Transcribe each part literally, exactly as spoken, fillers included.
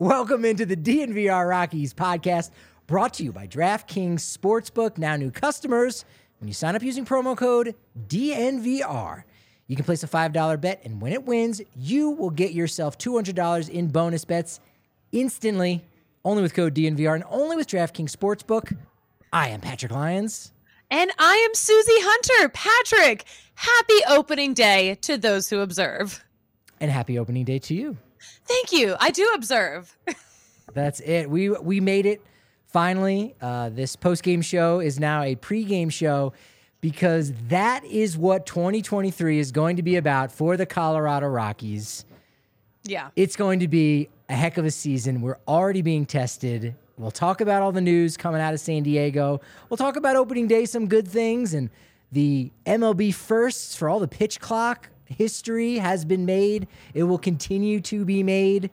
Welcome into the D N V R Rockies podcast, brought to you by DraftKings Sportsbook. Now new customers, when you sign up using promo code D N V R, you can place a five dollar bet, and when it wins, you will get yourself two hundred dollars in bonus bets instantly, only with code D N V R and only with DraftKings Sportsbook. I am Patrick Lyons. And I am Susie Hunter. Patrick, happy opening day to those who observe. And happy opening day to you. Thank you. I do observe. That's it. We we made it finally. Uh, this post-game show is now a pre-game show because that is what twenty twenty-three is going to be about for the Colorado Rockies. Yeah. It's going to be a heck of a season. We're already being tested. We'll talk about all the news coming out of San Diego. We'll talk about opening day, some good things, and the M L B firsts for all the pitch clock history has been made. It will continue to be made,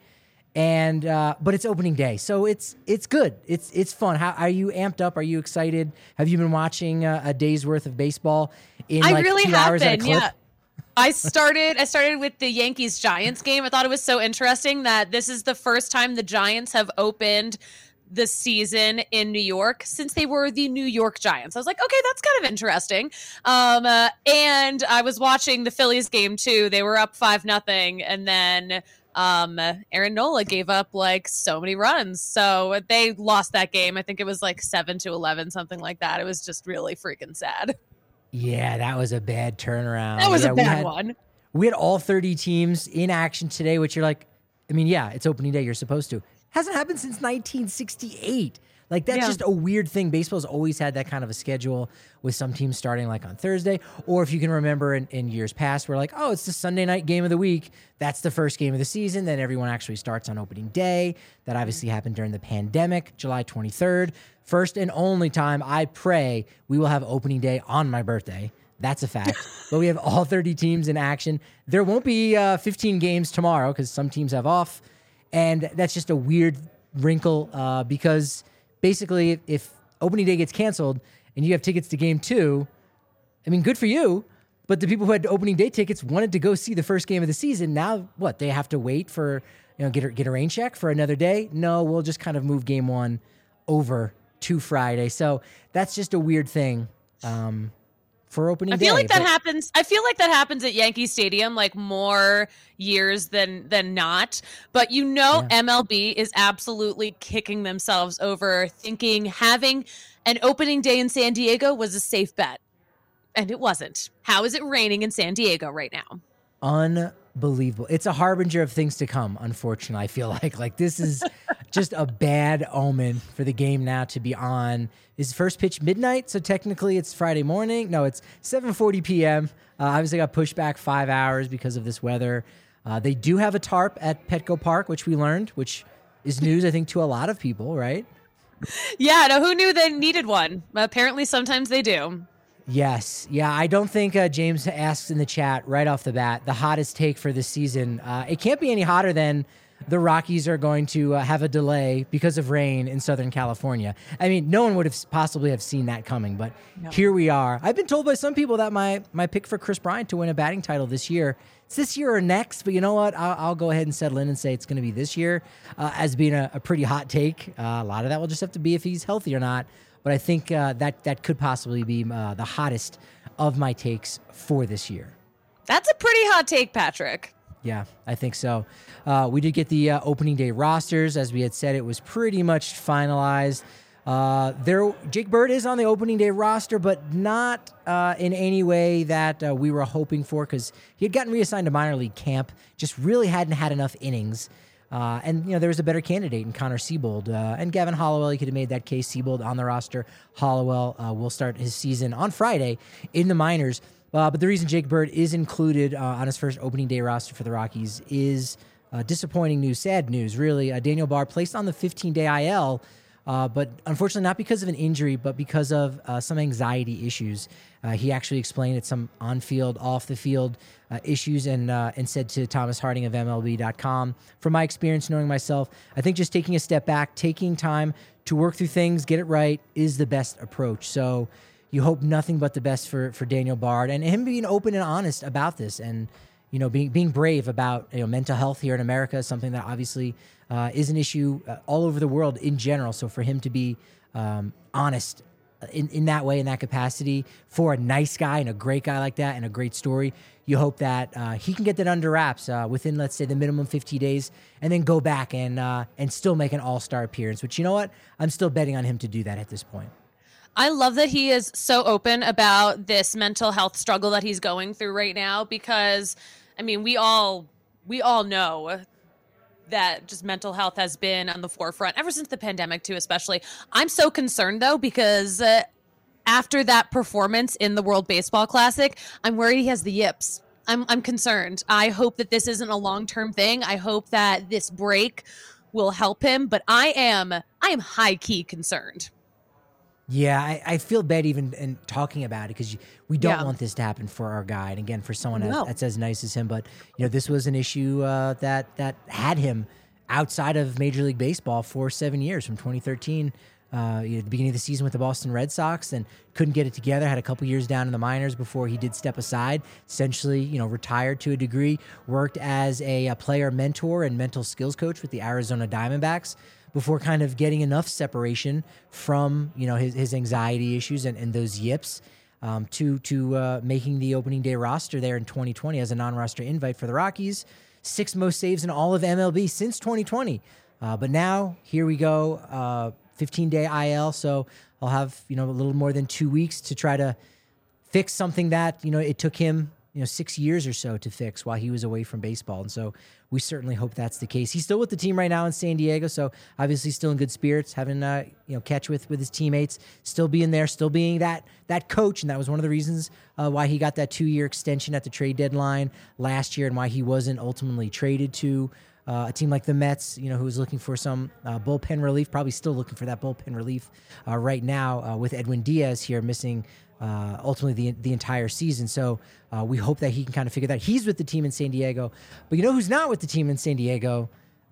and uh, but it's opening day, so it's it's good. It's it's fun. How are you amped up? Are you excited? Have you been watching uh, a day's worth of baseball in I like really two have hours at a been, clip? yeah. I started I started with the Yankees-Giants game. I thought it was so interesting that this is the first time the Giants have opened the season in New York since they were the New York Giants. I was like, okay, that's kind of interesting. Um, uh, and I was watching the Phillies game too. They were up five nothing, and then um, Aaron Nola gave up like so many runs, so they lost that game. I think it was like seven to eleven, something like that. It was just really freaking sad. Yeah, that was a bad turnaround. That was yeah, a bad had, one. We had all thirty teams in action today, which you're like, I mean, yeah, it's opening day. You're supposed to. Hasn't happened since nineteen sixty-eight. Like, that's yeah. just a weird thing. Baseball's always had that kind of a schedule with some teams starting like on Thursday. Or if you can remember in, in years past, we're like, oh, it's the Sunday night game of the week. That's the first game of the season. Then everyone actually starts on opening day. That obviously happened during the pandemic, July twenty-third. First and only time I pray we will have opening day on my birthday. That's a fact. But we have all thirty teams in action. There won't be uh, fifteen games tomorrow because some teams have off. And that's just a weird wrinkle uh, because basically if, if opening day gets canceled and you have tickets to game two, I mean, good for you. But the people who had opening day tickets wanted to go see the first game of the season. Now, what? They have to wait for, you know, get a, get a rain check for another day? No, we'll just kind of move game one over to Friday. So that's just a weird thing. Um, For opening I feel day, like that but- happens. I feel like that happens at Yankee Stadium like more years than than not. But you know, Yeah. M L B is absolutely kicking themselves over thinking having an opening day in San Diego was a safe bet, and it wasn't. How is it raining in San Diego right now? Unbelievable. It's a harbinger of things to come, unfortunately. I feel like like this is just a bad omen for the game now to be on. Is first pitch midnight, so technically it's Friday morning. No, it's seven forty p.m. Uh, obviously got pushed back five hours because of this weather. Uh, they do have a tarp at Petco Park, which we learned, which is news, I think, to a lot of people, right? Yeah, no, who knew they needed one? Apparently sometimes they do. Yes. Yeah, I don't think uh, James asks in the chat right off the bat, the hottest take for this season. Uh, it can't be any hotter than the Rockies are going to uh, have a delay because of rain in Southern California. I mean, no one would have possibly have seen that coming, but no. Here we are. I've been told by some people that my my pick for Chris Bryant to win a batting title this year, it's this year or next, but you know what? I'll, I'll go ahead and settle in and say it's going to be this year uh, as being a, a pretty hot take. Uh, a lot of that will just have to be if he's healthy or not. But I think uh, that that could possibly be uh, the hottest of my takes for this year. That's a pretty hot take, Patrick. Yeah, I think so. Uh, we did get the uh, opening day rosters. As we had said, it was pretty much finalized. Uh, there, Jake Bird is on the opening day roster, but not uh, in any way that uh, we were hoping for because he had gotten reassigned to minor league camp, just really hadn't had enough innings. Uh, and, you know, there was a better candidate in Connor Siebold. Uh, and Gavin Hollowell, he could have made that case. Siebold on the roster. Hollowell uh, will start his season on Friday in the minors. Uh, but the reason Jake Bird is included uh, on his first opening day roster for the Rockies is uh, disappointing news, sad news, really. Uh, Daniel Bard placed on the fifteen-day I L, uh, but unfortunately not because of an injury, but because of uh, some anxiety issues. Uh, he actually explained it, some on-field, off-the-field uh, issues, and uh, and said to Thomas Harding of M L B dot com, from my experience knowing myself, I think just taking a step back, taking time to work through things, get it right, is the best approach. So you hope nothing but the best for, for Daniel Bard and him being open and honest about this. And you know, being being brave about, you know, mental health here in America is something that obviously uh, is an issue uh, all over the world in general. So for him to be um, honest in, in that way, in that capacity, for a nice guy and a great guy like that and a great story, you hope that uh, he can get that under wraps uh, within, let's say, the minimum fifty days, and then go back and uh, and still make an all-star appearance, which, you know what? I'm still betting on him to do that at this point. I love that he is so open about this mental health struggle that he's going through right now, because, I mean, we all we all know that just mental health has been on the forefront ever since the pandemic too, especially. I'm so concerned though, because uh, after that performance in the World Baseball Classic, I'm worried he has the yips. I'm I'm concerned. I hope that this isn't a long-term thing. I hope that this break will help him, but I am I am high-key concerned. Yeah, I, I feel bad even in talking about it, because we don't Yeah. want this to happen for our guy. And again, for someone No. as, that's as nice as him. But, you know, this was an issue uh, that that had him outside of Major League Baseball for seven years, from twenty thirteen, uh, you know, the beginning of the season with the Boston Red Sox, and couldn't get it together. Had a couple years down in the minors before he did step aside. Essentially, you know, retired to a degree. Worked as a, a player mentor and mental skills coach with the Arizona Diamondbacks, before kind of getting enough separation from, you know, his, his anxiety issues and, and those yips um, to to uh, making the opening day roster there in twenty twenty as a non-roster invite for the Rockies. Sixth most saves in all of M L B since twenty twenty. Uh, but now, here we go, uh, fifteen-day I L, so I'll have, you know, a little more than two weeks to try to fix something that, you know, it took him, you know, six years or so to fix while he was away from baseball. And so we certainly hope that's the case. He's still with the team right now in San Diego, so obviously still in good spirits, having uh, you know, catch with with his teammates, still being there, still being that that coach, and that was one of the reasons uh, why he got that two-year extension at the trade deadline last year, and why he wasn't ultimately traded to uh, a team like the Mets, you know, who was looking for some uh, bullpen relief, probably still looking for that bullpen relief uh, right now uh, with Edwin Diaz here missing Uh, ultimately the the entire season. So uh, we hope that he can kind of figure that. He's with the team in San Diego. But you know who's not with the team in San Diego?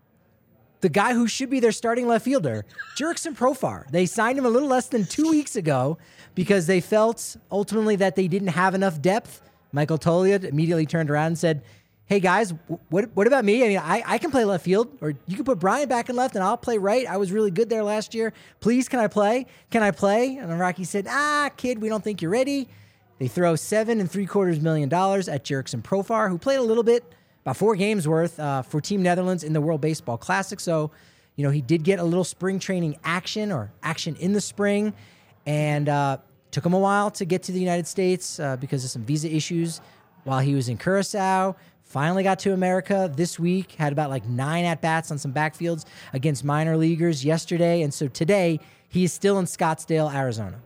The guy who should be their starting left fielder, Jurickson Profar. They signed him a little less than two weeks ago because they felt ultimately that they didn't have enough depth. Michael Toliad immediately turned around and said, hey guys, what what about me? I mean, I, I can play left field, or you can put Brian back in left and I'll play right. I was really good there last year. Please, can I play? Can I play? And the Rockies said, ah, kid, we don't think you're ready. They throw seven and three quarters million dollars at Jurickson Profar, who played a little bit, about four games worth uh, for Team Netherlands in the World Baseball Classic. So, you know, he did get a little spring training action or action in the spring, and uh, took him a while to get to the United States uh, because of some visa issues while he was in Curacao. Finally got to America this week, had about like nine at-bats on some backfields against minor leaguers yesterday. And so today, he is still in Scottsdale, Arizona.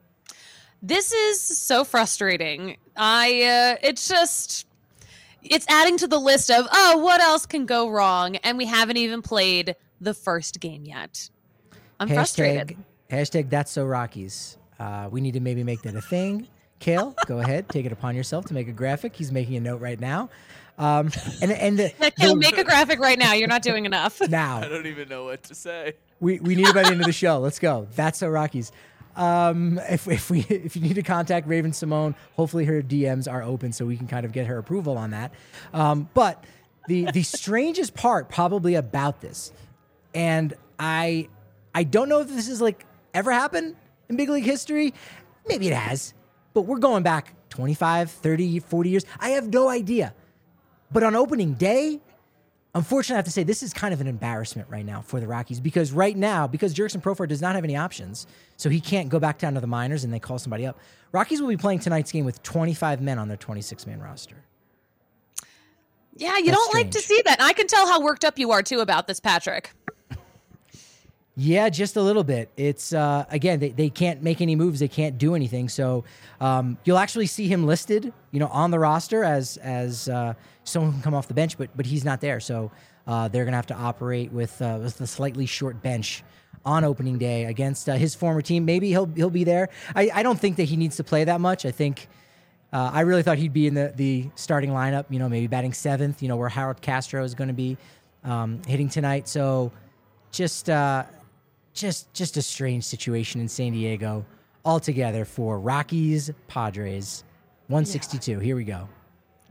This is so frustrating. I, uh, it's just, it's adding to the list of, oh, what else can go wrong? And we haven't even played the first game yet. I'm hashtag, frustrated. Hashtag that's so Rockies. Uh, we need to maybe make that a thing. Kale, go ahead, take it upon yourself to make a graphic. He's making a note right now. Um, and and the, Kale, the, make a graphic right now. You're not doing enough. now I don't even know what to say. we we need it by the end of the show. Let's go. That's so Rockies. Um, if if we if you need to contact Raven Simone, hopefully her D Ms are open so we can kind of get her approval on that. Um, but the the strangest part probably about this, and I I don't know if this is like ever happened in big league history. Maybe it has, but we're going back twenty-five, thirty, forty years. I have no idea. But on opening day, unfortunately, I have to say this is kind of an embarrassment right now for the Rockies, because right now, because Jurickson Profar does not have any options, so he can't go back down to the minors and they call somebody up. Rockies will be playing tonight's game with twenty-five men on their twenty-six man roster. Yeah, you That's don't like to strange. see that. I can tell how worked up you are too about this, Patrick. Yeah, just a little bit. It's, uh, again, they, they can't make any moves. They can't do anything. So um, you'll actually see him listed, you know, on the roster as as uh, someone who can come off the bench, but but he's not there. So uh, they're going to have to operate with, uh, with a slightly short bench on opening day against uh, his former team. Maybe he'll he'll be there. I, I don't think that he needs to play that much. I think uh, I really thought he'd be in the, the starting lineup, you know, maybe batting seventh, you know, where Harold Castro is going to be um, hitting tonight. So just... Uh, Just just a strange situation in San Diego altogether for Rockies, Padres. one sixty-two. Yeah. Here we go.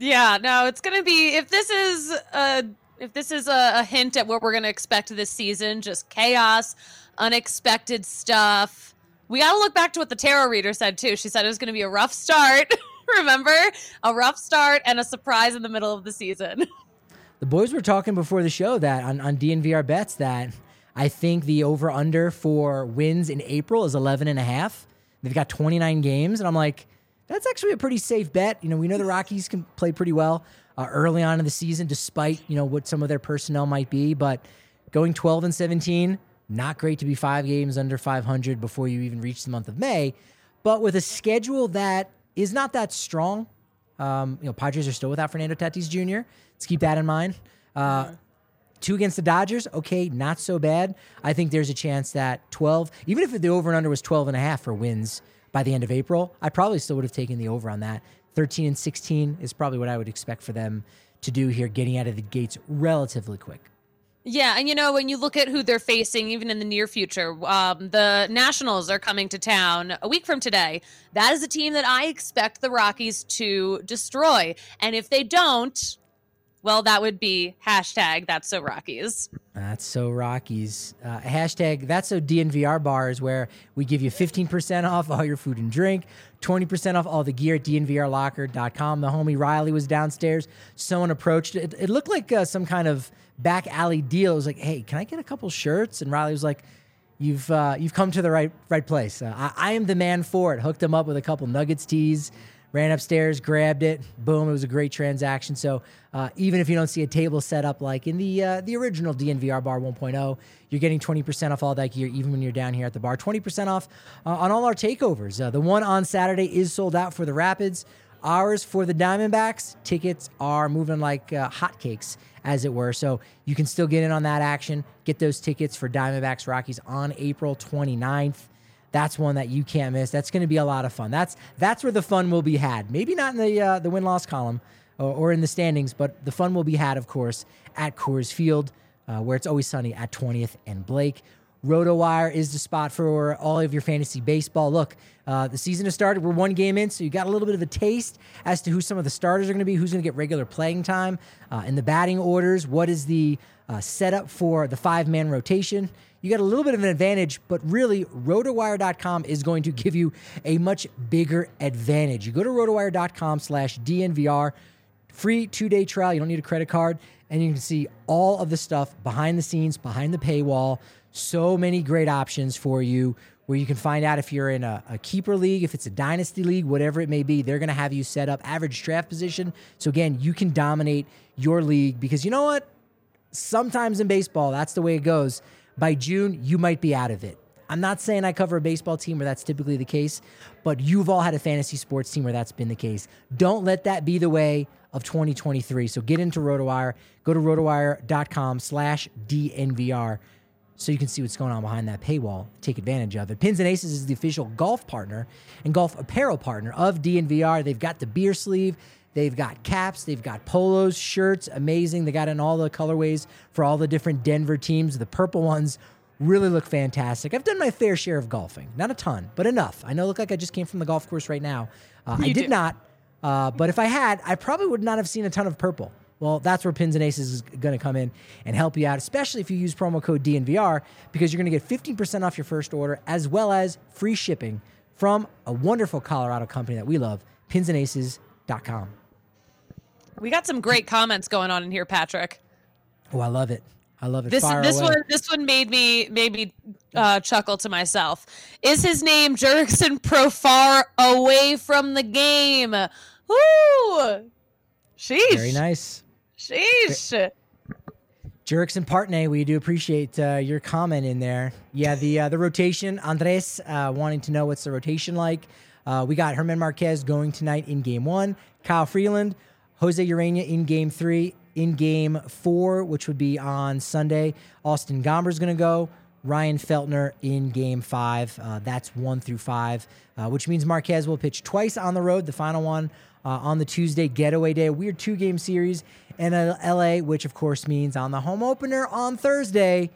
Yeah, no, it's going to be, if this is a, if this is a, a hint at what we're going to expect this season, just chaos, unexpected stuff. We got to look back to what the tarot reader said too. She said it was going to be a rough start. Remember? A rough start and a surprise in the middle of the season. The boys were talking before the show that on, on D N V R bets that I think the over-under for wins in April is eleven and a half. They've got twenty-nine games, and I'm like, that's actually a pretty safe bet. You know, we know the Rockies can play pretty well uh, early on in the season, despite, you know, what some of their personnel might be. But going twelve and seventeen, not great to be five games under five hundred before you even reach the month of May. But with a schedule that is not that strong, um, you know, Padres are still without Fernando Tatis Junior Let's keep that in mind. Uh, mm-hmm. Two against the Dodgers, okay, not so bad. I think there's a chance that twelve, even if the over and under was twelve and a half for wins by the end of April, I probably still would have taken the over on that. thirteen and sixteen is probably what I would expect for them to do here, getting out of the gates relatively quick. Yeah, and you know, when you look at who they're facing, even in the near future, um, the Nationals are coming to town a week from today. That is a team that I expect the Rockies to destroy. And if they don't, well, that would be hashtag That's So Rockies. That's So Rockies. Uh, hashtag That's So D N V R bars, where we give you fifteen percent off all your food and drink, twenty percent off all the gear at D N V R locker dot com. The homie Riley was downstairs. Someone approached it. It looked like uh, some kind of back alley deal. It was like, hey, can I get a couple shirts? And Riley was like, you've uh, you've come to the right right place. Uh, I, I am the man for it. Hooked him up with a couple Nuggets tees. Ran upstairs, grabbed it, boom, it was a great transaction. So uh, even if you don't see a table set up like in the uh, the original D N V R Bar one point oh, you're getting twenty percent off all that gear, even when you're down here at the bar. twenty percent off uh, on all our takeovers. Uh, the one on Saturday is sold out for the Rapids. Ours for the Diamondbacks, tickets are moving like uh, hotcakes, as it were. So you can still get in on that action. Get those tickets for Diamondbacks Rockies on April twenty-ninth. That's one that you can't miss. That's going to be a lot of fun. That's that's where the fun will be had. Maybe not in the uh, the win-loss column or, or in the standings, but the fun will be had, of course, at Coors Field, uh, where it's always sunny at twentieth and Blake. RotoWire is the spot for all of your fantasy baseball. Look, uh, the season has started. We're one game in, so you got a little bit of a taste as to who some of the starters are going to be, who's going to get regular playing time. Uh, in the batting orders, what is the uh, setup for the five-man rotation? You got a little bit of an advantage, but really, rotowire dot com is going to give you a much bigger advantage. You go to rotowire dot com slash D N V R, free two-day trial. You don't need a credit card, and you can see all of the stuff behind the scenes, behind the paywall. So many great options for you where you can find out if you're in a, a keeper league, if it's a dynasty league, whatever it may be. They're going to have you set up average draft position. So, again, you can dominate your league because you know what? Sometimes in baseball, that's the way it goes. By June, you might be out of it. I'm not saying I cover a baseball team where that's typically the case, but you've all had a fantasy sports team where that's been the case. Don't let that be the way of twenty twenty-three. So get into RotoWire. Go to rotowire dot com slash D N V R so you can see what's going on behind that paywall. Take advantage of it. Pins and Aces is the official golf partner and golf apparel partner of D N V R. They've got the beer sleeve. They've got caps, they've got polos, shirts, amazing. They got in all the colorways for all the different Denver teams. The purple ones really look fantastic. I've done my fair share of golfing. Not a ton, but enough. I know I look like I just came from the golf course right now. Uh, I did do. not, uh, but if I had, I probably would not have seen a ton of purple. Well, that's where Pins and Aces is going to come in and help you out, especially if you use promo code D N V R, because you're going to get fifteen percent off your first order, as well as free shipping from a wonderful Colorado company that we love, pins and aces dot com. We got some great comments going on in here, Patrick. Oh, I love it. I love it. This Fire this away. one this one made me made me uh, chuckle to myself. Is his name Jurickson Profar away from the game? Woo! Sheesh. Very nice. Sheesh. Jurickson Partney, we do appreciate uh, your comment in there. Yeah, the uh, the rotation. Andres uh, wanting to know what's the rotation like. Uh, we got Herman Marquez going tonight in game one. Kyle Freeland, Jose Urena in game three. In game four, which would be on Sunday, Austin Gomber's going to go. Ryan Feltner in game five. Uh, that's one through five, uh, which means Marquez will pitch twice on the road. The final one uh, on the Tuesday getaway day, a weird two-game series in L A, which of course means on the home opener on Thursday,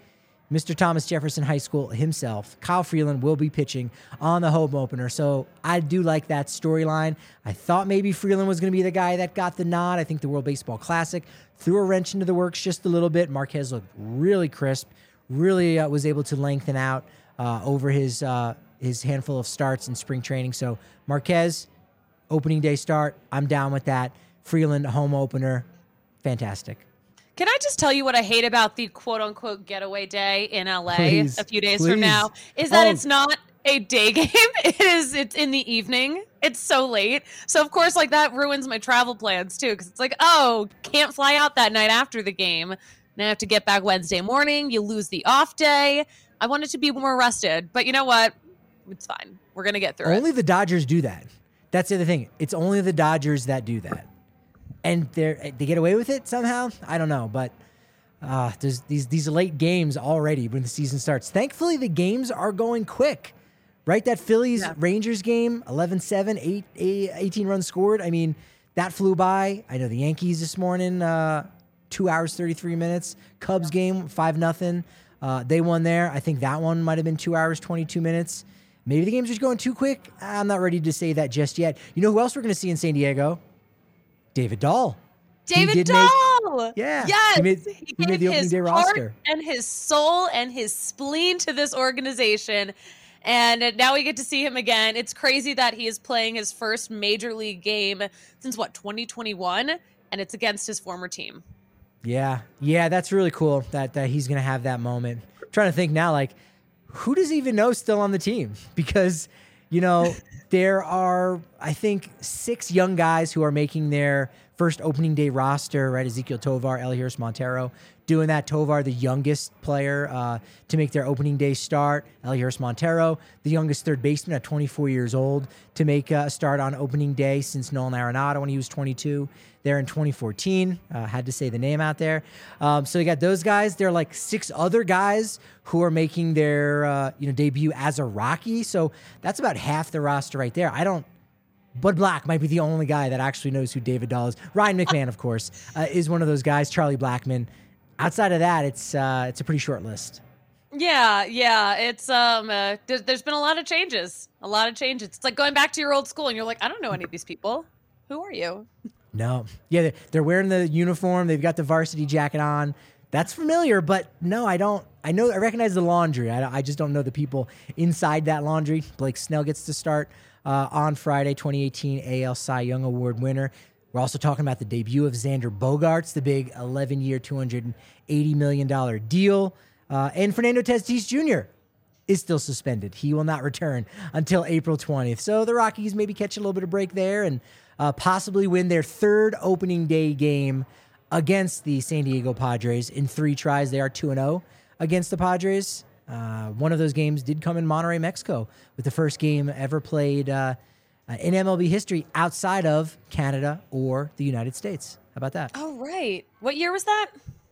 Mister Thomas Jefferson High School himself, Kyle Freeland, will be pitching on the home opener. So I do like that storyline. I thought maybe Freeland was going to be the guy that got the nod. I think the World Baseball Classic threw a wrench into the works just a little bit. Marquez looked really crisp, really uh, was able to lengthen out uh, over his uh, his handful of starts in spring training. So Marquez, opening day start, I'm down with that. Freeland, home opener, fantastic. Can I just tell you what I hate about the quote-unquote getaway day in L A Please, a few days please. from now? Is that Oh. it's not a day game. It is. It's in the evening. It's so late. So, of course, like that ruins my travel plans, too, because it's like, oh, can't fly out that night after the game. Now I have to get back Wednesday morning. You lose the off day. I wanted to be more rested. But you know what? It's fine. We're going to get through Only it. the Dodgers do that. That's the other thing. It's only the Dodgers that do that. And they they get away with it somehow. I don't know, but uh, there's these these late games already when the season starts. Thankfully, the games are going quick, right? That Phillies Yeah. Rangers game, eleven seven, eight, eight, eighteen runs scored. I mean, that flew by. I know the Yankees this morning, uh, two hours thirty-three minutes. Cubs game, five nothing. Uh, they won there. I think that one might have been two hours twenty-two minutes. Maybe the game's just going too quick. I'm not ready to say that just yet. You know who else we're going to see in San Diego? David Dahl. He David did make- Dahl. Yeah, Yes. he made- He, he gave made the opening his day heart roster. and his soul and his spleen to this organization. And now we get to see him again. It's crazy that he is playing his first major league game since what, twenty twenty-one, and it's against his former team. Yeah, yeah, that's really cool that that he's gonna have that moment. I'm trying to think now, like, who does he even know still on the team? Because, you know, there are, I think, six young guys who are making their first opening day roster, right? Ezequiel Tovar, Elias Montero doing that. Tovar, the youngest player uh, to make their opening day start. Elias Montero, the youngest third baseman at twenty-four years old to make a start on opening day since Nolan Arenado when he was twenty-two there in twenty fourteen. Uh, had to say the name out there. Um, so you got those guys. There are like six other guys who are making their uh, you know debut as a Rocky. So that's about half the roster right there. I don't. Bud Black might be the only guy that actually knows who David Dahl is. Ryan McMahon, of course, uh, is one of those guys. Charlie Blackmon. Outside of that, it's uh, it's a pretty short list. Yeah, yeah. It's um uh, there's, there's been a lot of changes. A lot of changes. It's like going back to your old school and you're like, I don't know any of these people. Who are you? No. Yeah, they're- they're wearing the uniform. They've got the varsity jacket on. That's familiar, but no, I don't. I know, I recognize the laundry. I, I just don't know the people inside that laundry. Blake Snell gets to start uh, on Friday, twenty eighteen A L Cy Young Award winner. We're also talking about the debut of Xander Bogaerts, the big eleven-year, two hundred eighty million dollars deal. Uh, and Fernando Tatis Junior is still suspended. He will not return until April twentieth. So the Rockies maybe catch a little bit of break there and uh, possibly win their third opening day game against the San Diego Padres in three tries. They are two and oh against the Padres. Uh, one of those games did come in Monterrey, Mexico, with the first game ever played uh, uh, in M L B history outside of Canada or the United States. How about that? Oh, right. What year was that?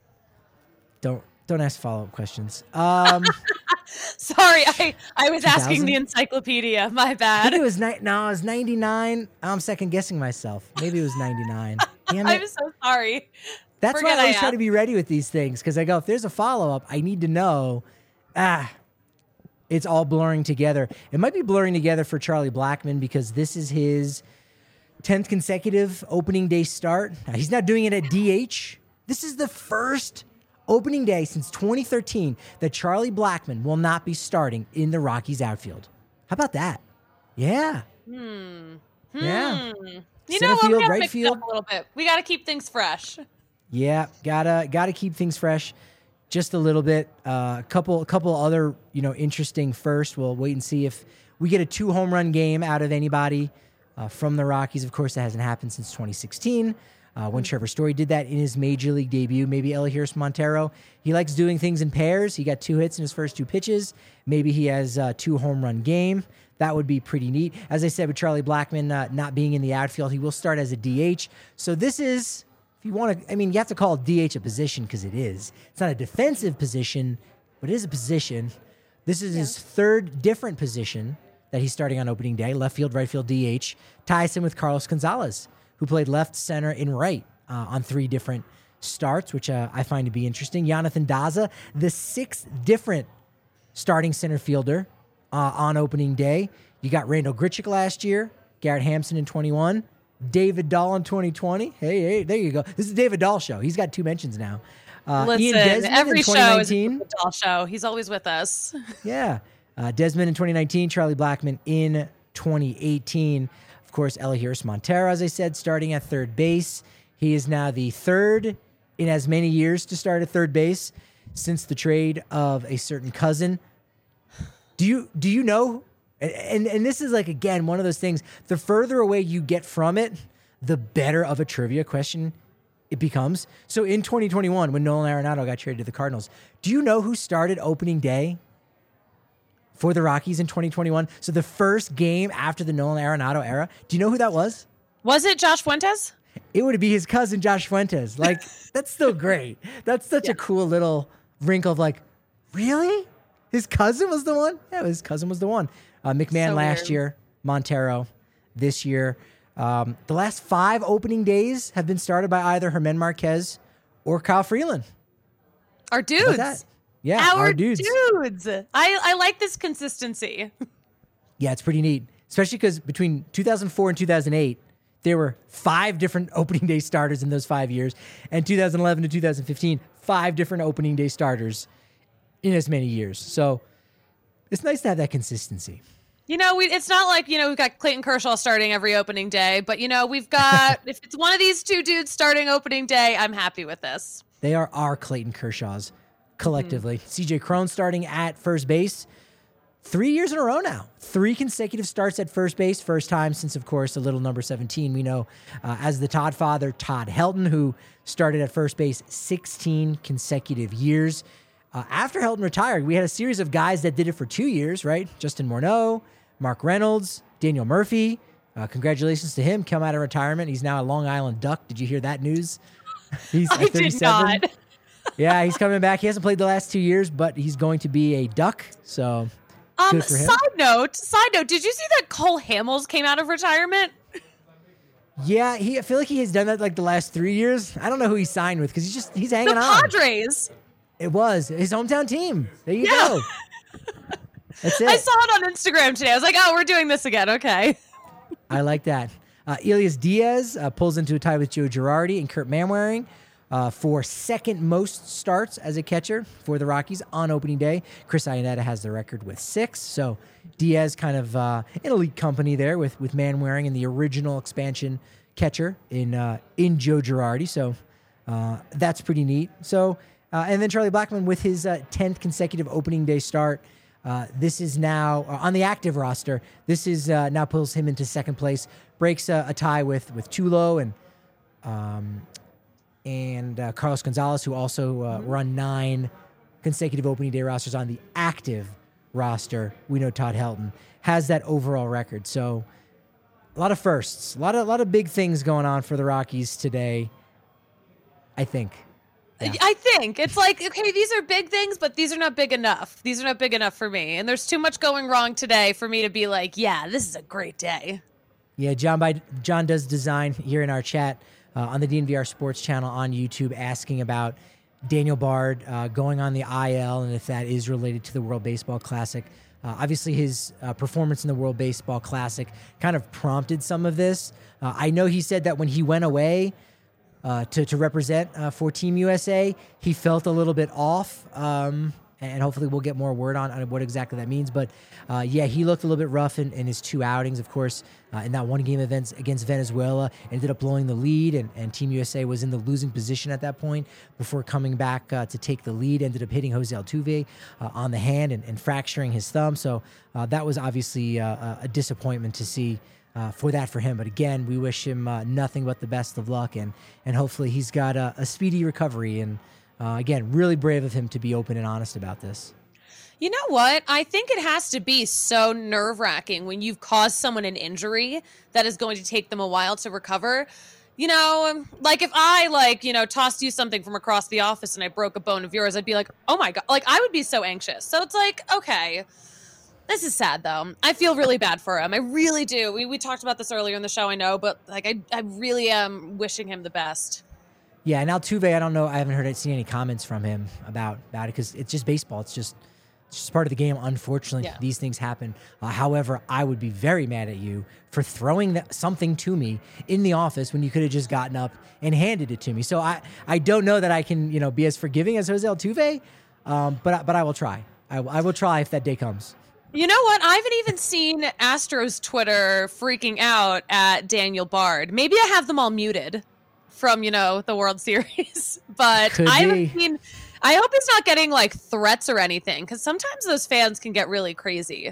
Don't don't ask follow-up questions. Um, Sorry, I, I was asking two thousand? the encyclopedia. My I bad. think it was ni- no, it was ninety-nine. I'm second guessing myself. Maybe it was ninety-nine. Damn it. I'm so sorry. That's Forget why I always I try to asked. be ready with these things, because I go, if there's a follow-up, I need to know. Ah, it's all blurring together. It might be blurring together for Charlie Blackmon because this is his tenth consecutive opening day start. Now, he's not doing it at D H. This is the first opening day since twenty thirteen that Charlie Blackmon will not be starting in the Rockies outfield. How about that? Yeah. Hmm. Yeah. Hmm. You Center know what? field, We gotta right mix it field. up a little bit. We got to keep things fresh. Yeah, gotta gotta keep things fresh, just a little bit. A uh, couple couple other you know interesting first. We'll wait and see if we get a two home run game out of anybody uh, from the Rockies. Of course, that hasn't happened since twenty sixteen uh, when Trevor Story did that in his major league debut. Maybe Elias Montero. He likes doing things in pairs. He got two hits in his first two pitches. Maybe he has a two home run game. That would be pretty neat. As I said, with Charlie Blackmon uh, not being in the outfield, he will start as a D H. So this is. You want to, I mean, you have to call D H a position because it is. It's not a defensive position, but it is a position. This is his third different position that he's starting on opening day, left field, right field, D H. Ties him with Carlos Gonzalez, who played left, center, and right uh, on three different starts, which uh, I find to be interesting. Jonathan Daza, the sixth different starting center fielder uh, on opening day. You got Randall Grichuk last year, Garrett Hampson in twenty-one, David Dahl in twenty twenty. Hey, hey, there you go. This is the David Dahl show. He's got two mentions now. Uh, Listen, Ian Desmond every in show is a twenty nineteen. David Dahl show. He's always with us. Yeah. Uh, Desmond in twenty nineteen, Charlie Blackmon in twenty eighteen. Of course, Elihuris Montero, as I said, starting at third base. He is now the third in as many years to start at third base since the trade of a certain cousin. Do you do you know? And, and and this is like, again, one of those things. The further away you get from it, the better of a trivia question it becomes. So in twenty twenty-one, when Nolan Arenado got traded to the Cardinals, do you know who started opening day for the Rockies in twenty twenty-one? So the first game after the Nolan Arenado era. Do you know who that was? Was it Josh Fuentes? It would be his cousin, Josh Fuentes. Like, that's still great. That's such Yeah. a cool little wrinkle of like, really? His cousin was the one? Yeah, his cousin was the one. Uh, McMahon So last weird. year, Montero this year. Um, the last five opening days have been started by either Herman Marquez or Kyle Freeland. Our How about dudes. that? Yeah, Our, our dudes. dudes. I, I like this consistency. Yeah, it's pretty neat, especially because between two thousand four and two thousand eight, there were five different opening day starters in those five years. And two thousand eleven to two thousand fifteen, five different opening day starters in as many years. So it's nice to have that consistency. You know, we, it's not like, you know, we've got Clayton Kershaw starting every opening day, but, you know, we've got, if it's one of these two dudes starting opening day, I'm happy with this. They are our Clayton Kershaws collectively. Mm-hmm. C J Cron starting at first base. Three years in a row now. Three consecutive starts at first base. First time since, of course, a little number seventeen. We know uh, as the Todd father, Todd Helton, who started at first base sixteen consecutive years. Uh, after Helton retired, we had a series of guys that did it for two years, right? Justin Morneau, Mark Reynolds, Daniel Murphy. Uh, congratulations to him. Come out of retirement. He's now a Long Island Duck. Did you hear that news? He's I did not. Yeah, he's coming back. He hasn't played the last two years, but he's going to be a Duck. So Um, good for him. side note, side note, did you see that Cole Hamels came out of retirement? Yeah, he. I feel like he has done that like the last three years. I don't know who he signed with because he's just he's The hanging on. Padres. It was his hometown team. There you Yeah. go. That's it. I saw it on Instagram today. I was like, oh, we're doing this again. Okay. I like that. Uh, Elias Diaz uh, pulls into a tie with Joe Girardi and Kurt Manwaring uh, for second most starts as a catcher for the Rockies on opening day. Chris Iannetta has the record with six. So Diaz kind of uh, in elite company there with with Manwaring and the original expansion catcher in uh, in Joe Girardi. So uh, that's pretty neat. So uh, and then Charlie Blackmon with his uh, tenth consecutive opening day start. Uh, this is now uh, on the active roster. This is uh, now pulls him into second place, breaks uh, a tie with with Tulo and um, and uh, Carlos Gonzalez, who also uh, run nine consecutive opening day rosters on the active roster. We know Todd Helton has that overall record. So a lot of firsts, a lot of a lot of big things going on for the Rockies today. I think. Yeah. I think it's like, okay, these are big things, but these are not big enough. These are not big enough for me. And there's too much going wrong today for me to be like, yeah, this is a great day. Yeah, John by John does design here in our chat uh, on the D N V R Sports channel on YouTube, asking about Daniel Bard uh, going on the I L and if that is related to the World Baseball Classic. Uh, obviously, his uh, performance in the World Baseball Classic kind of prompted some of this. Uh, I know he said that when he went away uh, to to represent uh, for Team U S A, he felt a little bit off. Um, And hopefully we'll get more word on, on what exactly that means. But, uh, yeah, he looked a little bit rough in, in his two outings. Of course, uh, in that one-game event against Venezuela, ended up blowing the lead, and, and Team U S A was in the losing position at that point before coming back uh, to take the lead. Ended up hitting Jose Altuve uh, on the hand and, and fracturing his thumb. So uh, that was obviously uh, a disappointment to see uh, for that for him. But, again, we wish him uh, nothing but the best of luck, and, and hopefully he's got a, a speedy recovery. And Uh, again, really brave of him to be open and honest about this. You know what? I think it has to be so nerve-wracking when you've caused someone an injury that is going to take them a while to recover. You know, like if I like, you know, tossed you something from across the office and I broke a bone of yours, I'd be like, oh my God, like I would be so anxious. So it's like, okay, this is sad though. I feel really bad for him. I really do. We, we talked about this earlier in the show, I know, but like I, I really am wishing him the best. Yeah, and Altuve, I don't know. I haven't heard seen any comments from him about about it because it's just baseball. It's just it's just part of the game. Unfortunately, Yeah. these things happen. Uh, however, I would be very mad at you for throwing that, something to me in the office when you could have just gotten up and handed it to me. So I, I don't know that I can you know be as forgiving as Jose Altuve, um, but I- but I will try. I, I will try if that day comes. You know what? I haven't even seen Astros Twitter freaking out at Daniel Bard. Maybe I have them all muted from, you know, the World Series, but Could I haven't be. seen. I hope it's not getting like threats or anything, because sometimes those fans can get really crazy.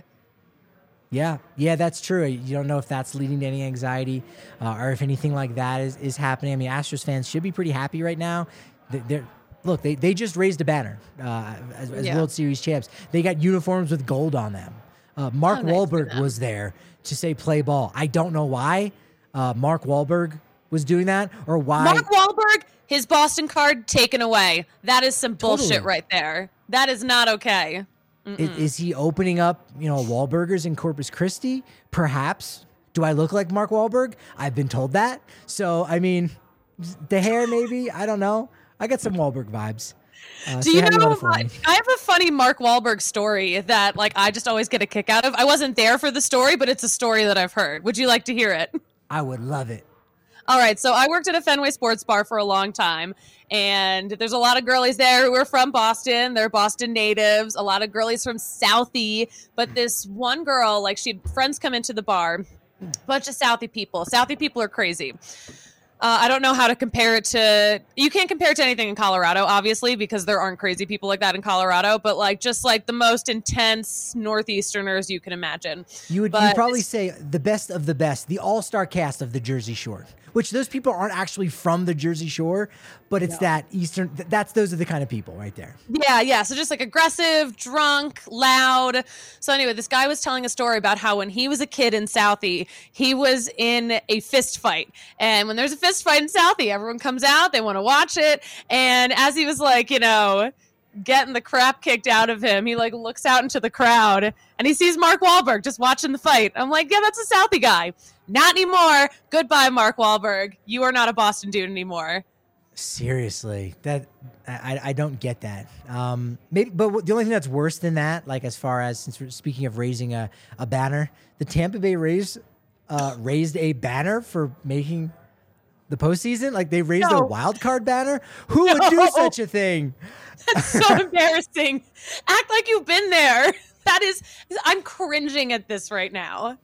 Yeah, yeah, that's true. You don't know if that's leading to any anxiety uh, or if anything like that is, is happening. I mean, Astros fans should be pretty happy right now. They- They're look, they, they just raised a banner uh, as, as Yeah. World Series champs. They got uniforms with gold on them. Uh, Mark Oh, nice for Wahlberg them. was there to say play ball. I don't know why uh, Mark Wahlberg was doing that or why. Mark Wahlberg, his Boston card taken away. That is some bullshit Totally. right there. That is not okay. Is, is he opening up, you know, Wahlburgers in Corpus Christi? Perhaps. Do I look like Mark Wahlberg? I've been told that. So, I mean, the hair maybe. I don't know. I got some Wahlberg vibes. Uh, Do say you hi to know? Lana for me. I have a funny Mark Wahlberg story that, like, I just always get a kick out of. I wasn't there for the story, but it's a story that I've heard. Would you like to hear it? I would love it. All right, so I worked at a Fenway Sports Bar for a long time, and there's a lot of girlies there who are from Boston. They're Boston natives. A lot of girlies from Southie, but this one girl, like, she had friends come into the bar, bunch of Southie people. Southie people are crazy. Uh, I don't know how to compare it to. You can't compare it to anything in Colorado, obviously, because there aren't crazy people like that in Colorado. But like, just like the most intense Northeasterners you can imagine. You would But you'd probably say the best of the best, the all-star cast of the Jersey Shore, which those people aren't actually from the Jersey Shore, but it's that Eastern, th- that's, those are the kind of people right there. Yeah, yeah. So just like aggressive, drunk, loud. So anyway, this guy was telling a story about how when he was a kid in Southie, he was in a fist fight. And when there's a fist fight in Southie, everyone comes out, they want to watch it. And as he was like, you know, getting the crap kicked out of him, he like looks out into the crowd and he sees Mark Wahlberg just watching the fight. I'm like, yeah, that's a Southie guy. Not anymore. Goodbye, Mark Wahlberg. You are not a Boston dude anymore. Seriously, that I, I don't get that. Um, maybe, but the only thing that's worse than that, like as far as since we're speaking of raising a, a banner, the Tampa Bay Rays uh, raised a banner for making the postseason. Like they raised No. a wild card banner. Who would do No. such a thing? That's so embarrassing. Act like you've been there. That is, I'm cringing at this right now.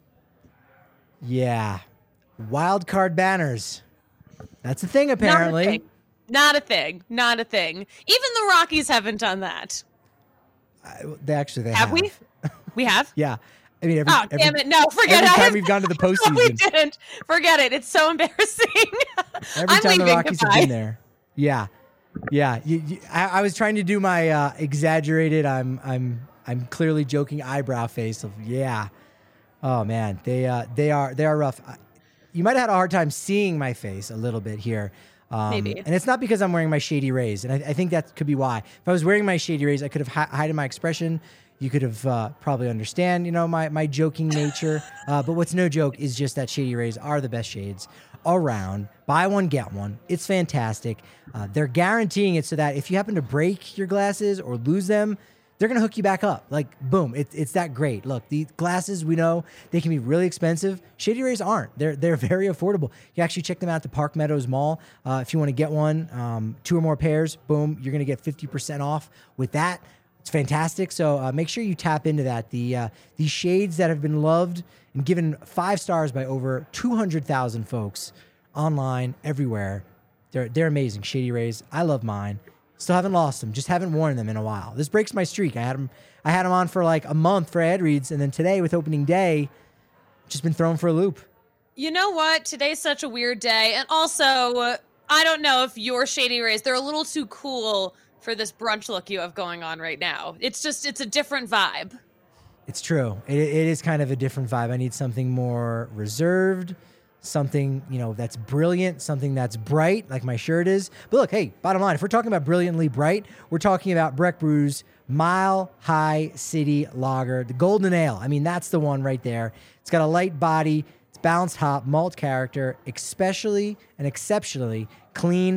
Yeah, wild card banners. That's a thing apparently. Not a thing. Not a thing. Not a thing. Even the Rockies haven't done that. I, they actually they Have have. we? We have? Yeah, I mean every, Oh, every, damn it. No, forget every it. I time have- we've gone to the No, we postseason. didn't. Forget it. It's so embarrassing. Every I'm time the leaving. Rockies Goodbye. have been there. Yeah. Yeah. You, you, I, I was trying to do my uh, exaggerated, I'm I'm I'm clearly joking eyebrow face of yeah. Oh man, they uh, they are they are rough. I- You might have had a hard time seeing my face a little bit here. Um, Maybe. And it's not because I'm wearing my Shady Rays. And I, I think that could be why. If I was wearing my Shady Rays, I could have hi- hidden my expression. You could have uh, probably understand, you know, my, my joking nature. Uh, but what's no joke is just that Shady Rays are the best shades around. Buy one, get one. It's fantastic. Uh, they're guaranteeing it so that if you happen to break your glasses or lose them, they're going to hook you back up. Like, boom, it, it's that great. Look, the glasses, we know they can be really expensive. Shady Rays aren't. They're they're very affordable. You actually check them out at the Park Meadows Mall. Uh, if you want to get one, um, two or more pairs, boom, you're going to get fifty percent off with that. It's fantastic. So uh, make sure you tap into that. The uh, these shades that have been loved and given five stars by over two hundred thousand folks online, everywhere. They're, they're amazing. Shady Rays. I love mine. Still haven't lost them. Just haven't worn them in a while. This breaks my streak. I had them. I had them on for like a month for ad reads, and then today with opening day, just been thrown for a loop. You know what? Today's such a weird day. And also, uh, I don't know if your Shady Rays, they're a little too cool for this brunch look you have going on right now. It's just, it's a different vibe. It's true. It, it is kind of a different vibe. I need something more reserved, something, you know, that's brilliant, something that's bright, like my shirt is. But look, hey, bottom line, if we're talking about brilliantly bright, we're talking about Breck Brew's Mile High City Lager, the Golden Ale. I mean, that's the one right there. It's got a light body, it's balanced hop, malt character, especially and exceptionally clean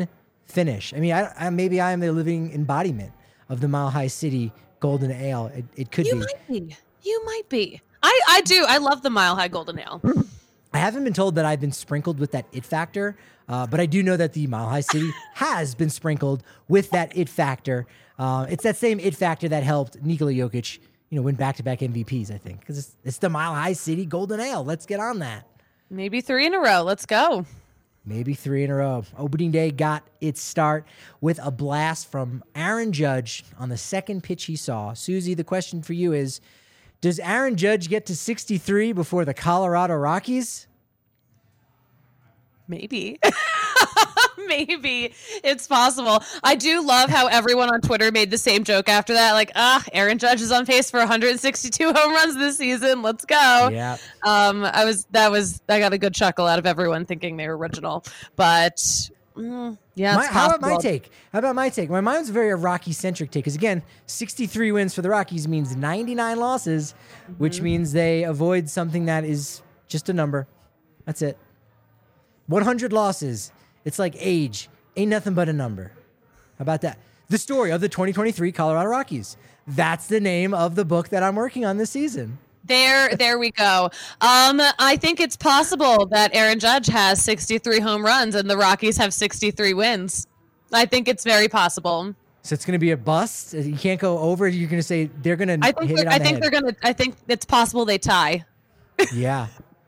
finish. I mean, I, I maybe I am the living embodiment of the Mile High City Golden Ale. It, it could you be. You might be. You might be. I, I do. I love the Mile High Golden Ale. I haven't been told that I've been sprinkled with that it factor, uh, but I do know that the Mile High City has been sprinkled with that it factor. Uh, it's that same it factor that helped Nikola Jokic, you know, win back-to-back M V Ps, I think, because it's, it's the Mile High City Golden Ale. Let's get on that. Maybe three in a row. Let's go. Maybe three in a row. Opening day got its start with a blast from Aaron Judge on the second pitch he saw. Susie, the question for you is, does Aaron Judge get to sixty-three before the Colorado Rockies? Maybe. Maybe it's possible. I do love how everyone on Twitter made the same joke after that. Like, ah, Aaron Judge is on pace for one hundred sixty-two home runs this season. Let's go. Yeah. Um, I was, that was, I got a good chuckle out of everyone thinking they were original, but mm, yeah. My, it's how about possible. my take? How about my take? My mine's a very Rocky centric take. Cause again, sixty-three wins for the Rockies means ninety-nine losses, mm-hmm. which means they avoid something that is just a number. That's it. one hundred losses. It's like age. Ain't nothing but a number. How about that? The story of the twenty twenty-three Colorado Rockies. That's the name of the book that I'm working on this season. There, there we go. Um, I think it's possible that Aaron Judge has sixty-three home runs and the Rockies have sixty-three wins. I think it's very possible. So it's going to be a bust. You can't go over. You're going to say they're going to I think hit it on I the think head. they're going to. I think it's possible they tie. Yeah.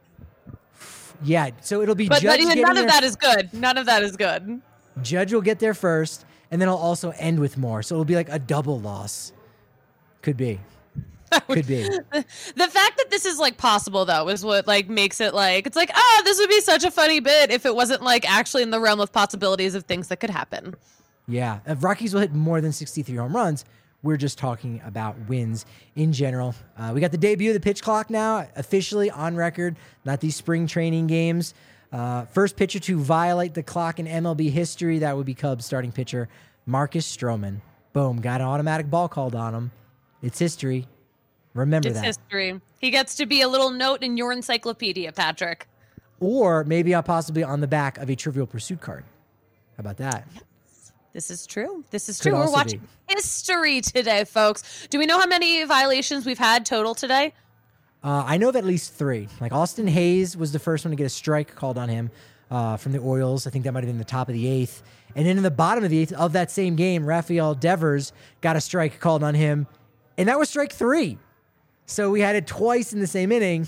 Yeah, so it'll be but Judge none getting of there. that is good. None of that is good. Judge will get there first, and then it'll also end with more. So it'll be like a double loss. Could be. Could be. The fact that this is like possible though is what like makes it like it's like, oh, this would be such a funny bit if it wasn't like actually in the realm of possibilities of things that could happen. Yeah, if Rockies will hit more than sixty-three home runs. We're just talking about wins in general. Uh, we got the debut of the pitch clock now, officially on record, not these spring training games. Uh, first pitcher to violate the clock in M L B history, that would be Cubs starting pitcher Marcus Stroman. Boom, got an automatic ball called on him. It's history. Remember it's that. It's history. He gets to be a little note in your encyclopedia, Patrick. Or maybe uh, possibly on the back of a Trivial Pursuit card. How about that? This is true. This is Could true. We're also watching be. history today, folks. Do we know how many violations we've had total today? Uh, I know of at least three. Like Austin Hayes was the first one to get a strike called on him uh, from the Orioles. I think that might have been the top of the eighth. And then in the bottom of the eighth of that same game, Rafael Devers got a strike called on him, and that was strike three. So we had it twice in the same inning,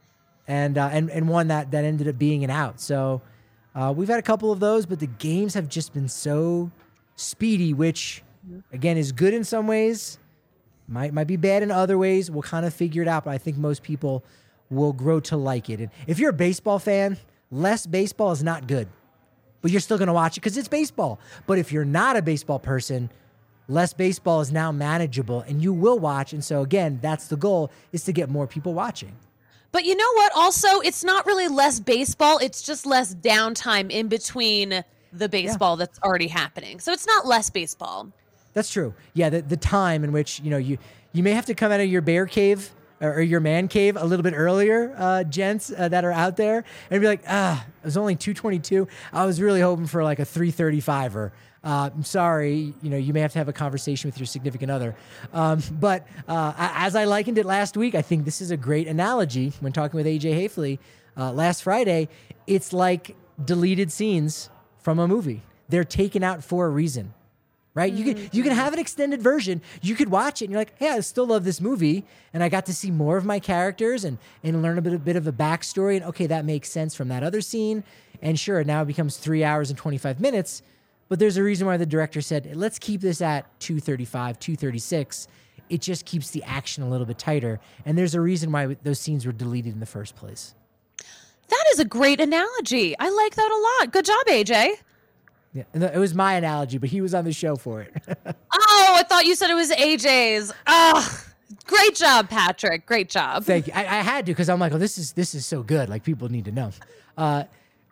and uh, and and one that that ended up being an out. So uh, we've had a couple of those, but the games have just been so speedy, which again is good in some ways, might might be bad in other ways. We'll kind of figure it out, but I think most people will grow to like it. And if you're a baseball fan, less baseball is not good, but you're still going to watch it because it's baseball. But if you're not a baseball person, less baseball is now manageable and you will watch. And so again, that's the goal, is to get more people watching. But you know what? Also, it's not really less baseball. It's just less downtime in between the baseball yeah. that's already happening. So it's not less baseball. That's true. Yeah, the, the time in which, you know, you, you may have to come out of your bear cave or, or your man cave a little bit earlier, uh, gents uh, that are out there, and be like, ah, it was only two twenty-two. I was really hoping for like a three thirty-five-er. Uh, I'm sorry, you know, you may have to have a conversation with your significant other. Um, but uh, as I likened it last week, I think this is a great analogy when talking with A J Hafley uh, last Friday. It's like deleted scenes from a movie. They're taken out for a reason, right? Mm-hmm. You can you can have an extended version. You could watch it and you're like, hey, I still love this movie, and I got to see more of my characters and and learn a bit, a bit of a backstory, and okay, that makes sense from that other scene. And sure, now it becomes three hours and twenty-five minutes, but there's a reason why the director said, let's keep this at two thirty-five, two thirty-six. It just keeps the action a little bit tighter, and there's a reason why those scenes were deleted in the first place. That is a great analogy. I like that a lot. Good job, A J. Yeah, it was my analogy, but he was on the show for it. Oh, I thought you said it was A J's. Oh, great job, Patrick. Great job. Thank you. I, I had to, because I'm like, oh, this is this is so good. Like, people need to know. Uh,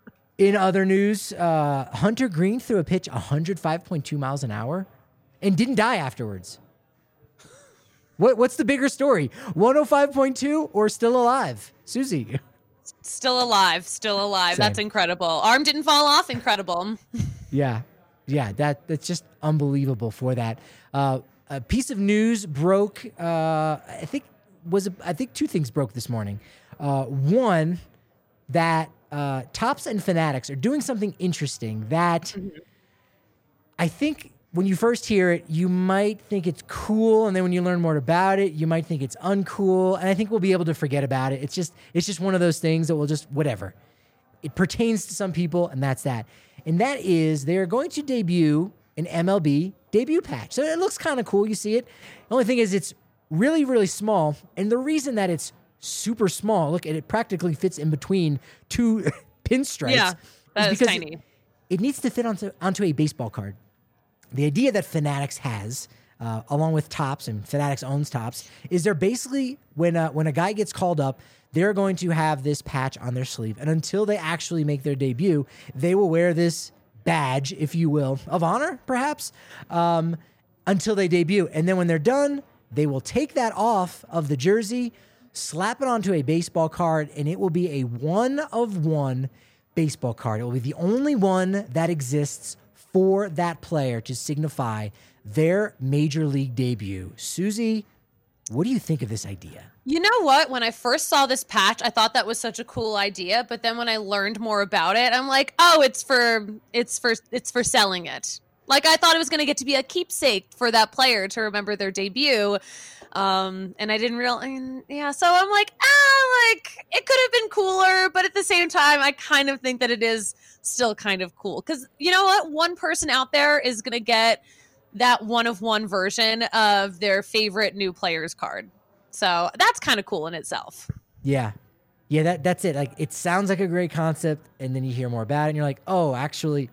in other news, uh, Hunter Green threw a pitch one hundred five point two miles an hour and didn't die afterwards. What What's the bigger story? one oh five point two or still alive? Susie. Still alive. Still alive. Same. That's incredible. Arm didn't fall off. Incredible. Yeah. Yeah, that that's just unbelievable for that. Uh, a piece of news broke. Uh, I think was I think two things broke this morning. Uh, one, that uh, Topps and Fanatics are doing something interesting that mm-hmm. I think when you first hear it, you might think it's cool, and then when you learn more about it, you might think it's uncool, and I think we'll be able to forget about it. It's just it's just one of those things that will just whatever. It pertains to some people, and that's that. And that is they're going to debut an M L B debut patch. So it looks kind of cool. You see it. The only thing is it's really, really small, and the reason that it's super small, look, it practically fits in between two pinstripes. Yeah, that is because tiny. It, it needs to fit onto onto a baseball card. The idea that Fanatics has, uh, along with Topps, and Fanatics owns Topps, is they're basically, when uh, when a guy gets called up, they're going to have this patch on their sleeve. And until they actually make their debut, they will wear this badge, if you will, of honor, perhaps, um, until they debut. And then when they're done, they will take that off of the jersey, slap it onto a baseball card, and it will be a one-of-one baseball card. It will be the only one that exists for that player to signify their major league debut. Susie, what do you think of this idea? You know what? When I first saw this patch, I thought that was such a cool idea. But then when I learned more about it, I'm like, oh, it's for it's for it's for selling it. Like I thought it was going to get to be a keepsake for that player to remember their debut. Um, and I didn't realize, yeah. So I'm like, ah, like it could have been cooler, but at the same time, I kind of think that it is still kind of cool because you know what? One person out there is going to get that one of one version of their favorite new player's card. So that's kind of cool in itself. Yeah. Yeah, that that's it. Like it sounds like a great concept, and then you hear more about it and you're like, oh, actually,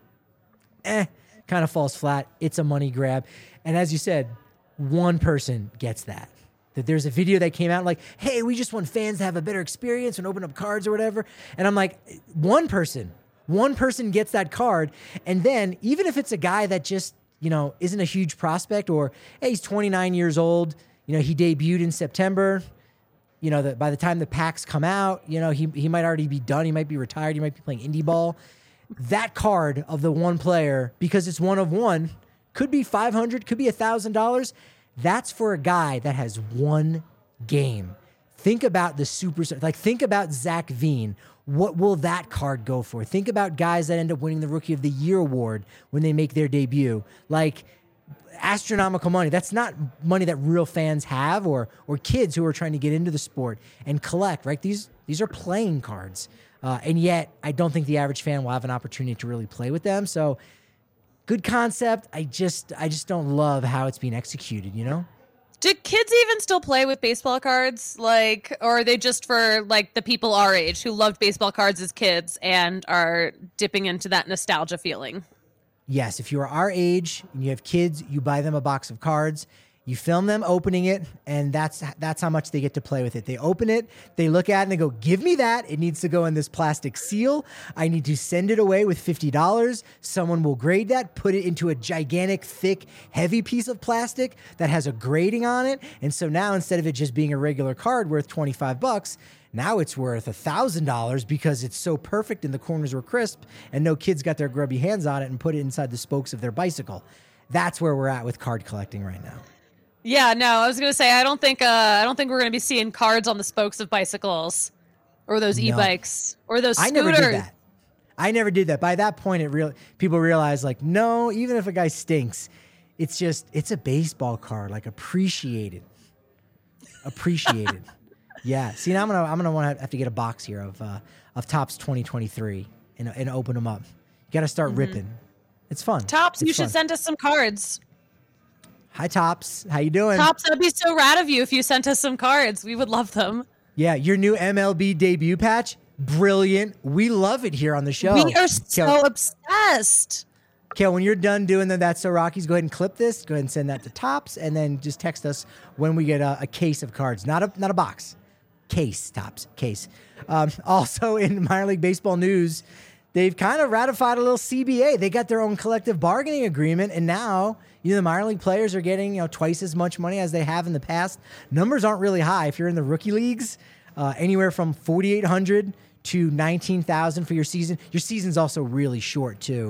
eh, kind of falls flat. It's a money grab. And as you said, one person gets that. That there's a video that came out like, hey, we just want fans to have a better experience and open up cards or whatever. And I'm like, one person, one person gets that card. And then even if it's a guy that just, you know, isn't a huge prospect, or hey, he's twenty-nine years old, you know, he debuted in September, you know, that by the time the packs come out, you know, he he might already be done. He might be retired. He might be playing indie ball. That card of the one player, because it's one of one, could be five hundred, could be one thousand dollars. That's for a guy that has one game. Think about the super, like think about Zach Veen. What will that card go for? Think about guys that end up winning the Rookie of the Year award when they make their debut. Like astronomical money. That's not money that real fans have, or or kids who are trying to get into the sport and collect, right? These these are playing cards. Uh, and yet, I don't think the average fan will have an opportunity to really play with them. So, good concept. I just I just don't love how it's being executed, you know? Do kids even still play with baseball cards? Like, or are they just for like the people our age who loved baseball cards as kids and are dipping into that nostalgia feeling? Yes, if you are our age and you have kids, you buy them a box of cards, you film them opening it, and that's that's how much they get to play with it. They open it, they look at it, and they go, give me that. It needs to go in this plastic seal. I need to send it away with fifty dollars. Someone will grade that, put it into a gigantic, thick, heavy piece of plastic that has a grading on it. And so now instead of it just being a regular card worth twenty-five bucks, now it's worth one thousand dollars because it's so perfect and the corners were crisp and no kids got their grubby hands on it and put it inside the spokes of their bicycle. That's where we're at with card collecting right now. Yeah, no, I was going to say, I don't think uh, I don't think we're going to be seeing cards on the spokes of bicycles or those no. e-bikes or those scooters. I never did that. I never did that. By that point, it real people realize, like, no, even if a guy stinks, it's just, it's a baseball card, like appreciated. Appreciated. Yeah. See, now I'm gonna I'm gonna want to have to get a box here of uh, of Topps twenty twenty-three and and open them up. You got to start mm-hmm. ripping. It's fun. Topps, it's you fun. should send us some cards. Hi, Topps. How you doing? Topps, that'd be so rad of you if you sent us some cards. We would love them. Yeah, your new M L B debut patch, brilliant. We love it here on the show. We are so Kel, obsessed. Kel, when you're done doing the That's So Rockies, go ahead and clip this. Go ahead and send that to Topps, and then just text us when we get a, a case of cards, not a not a box. Case, Topps, case. Um, also in minor league baseball news, they've kind of ratified a little C B A. They got their own collective bargaining agreement, and now you know the minor league players are getting you know twice as much money as they have in the past. Numbers aren't really high. If you're in the rookie leagues, uh, anywhere from forty-eight hundred to nineteen thousand for your season. Your season's also really short too.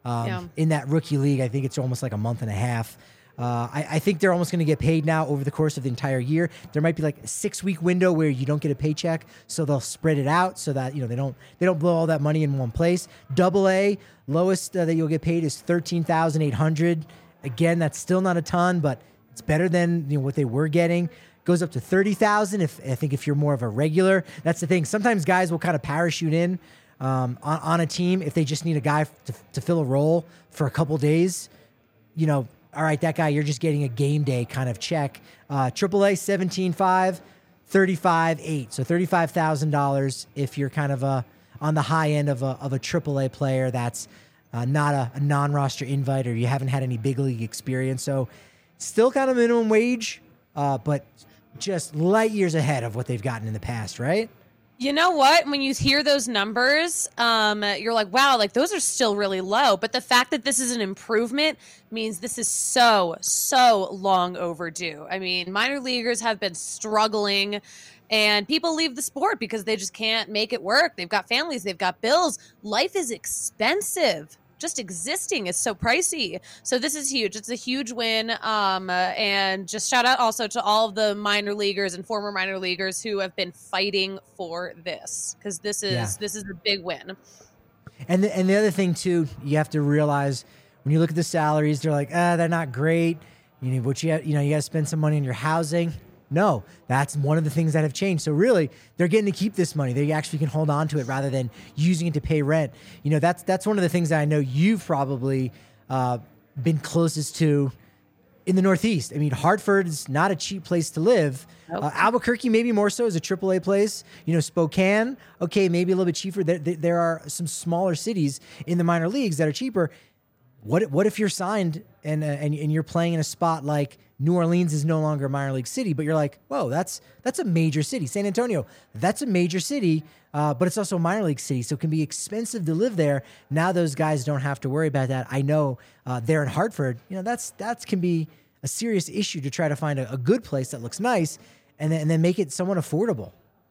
um, Yeah. in that rookie league. I think it's almost like a month and a half. Uh, I, I think they're almost going to get paid now over the course of the entire year. There might be like a six week window where you don't get a paycheck, so they'll spread it out so that you know they don't they don't blow all that money in one place. Double A lowest uh, that you'll get paid is thirteen thousand eight hundred. Again, that's still not a ton, but it's better than you know what they were getting. Goes up to thirty thousand. If I think if you're more of a regular, that's the thing. Sometimes guys will kind of parachute in um, on, on a team if they just need a guy to, to fill a role for a couple days. You know. All right, that guy, you're just getting a game day kind of check. Uh, triple A, seventeen five, thirty-five eight. So thirty-five thousand dollars if you're kind of a, on the high end of a, of a triple A player that's uh, not a, a non-roster invite or you haven't had any big league experience. So still kind of minimum wage, uh, but just light years ahead of what they've gotten in the past, right? You know what? When you hear those numbers, um, you're like, wow, like those are still really low. But the fact that this is an improvement means this is so, so long overdue. I mean, minor leaguers have been struggling and people leave the sport because they just can't make it work. They've got families, they've got bills. Life is expensive. Just existing is so pricey. So this is huge. It's a huge win. Um, uh, and just shout out also to all of the minor leaguers and former minor leaguers who have been fighting for this, because this is yeah. this is a big win. And the, and the other thing too, you have to realize when you look at the salaries, they're like, ah, they're not great. You know, what you have, you know, you got to spend some money on your housing. No, that's one of the things that have changed. So really, they're getting to keep this money. They actually can hold on to it rather than using it to pay rent. You know, that's that's one of the things that I know you've probably uh, been closest to in the Northeast. I mean, Hartford is not a cheap place to live. Nope. Uh, Albuquerque, maybe more so, is a triple A place. You know, Spokane, okay, maybe a little bit cheaper. There, there are some smaller cities in the minor leagues that are cheaper. What what if you're signed and uh, and and you're playing in a spot like New Orleans is no longer a minor league city, but you're like, whoa, that's that's a major city. San Antonio, that's a major city, uh, but it's also a minor league city, so it can be expensive to live there. Now those guys don't have to worry about that. I know uh, there in Hartford, you know, that's that can be a serious issue to try to find a, a good place that looks nice and then, and then make it somewhat affordable.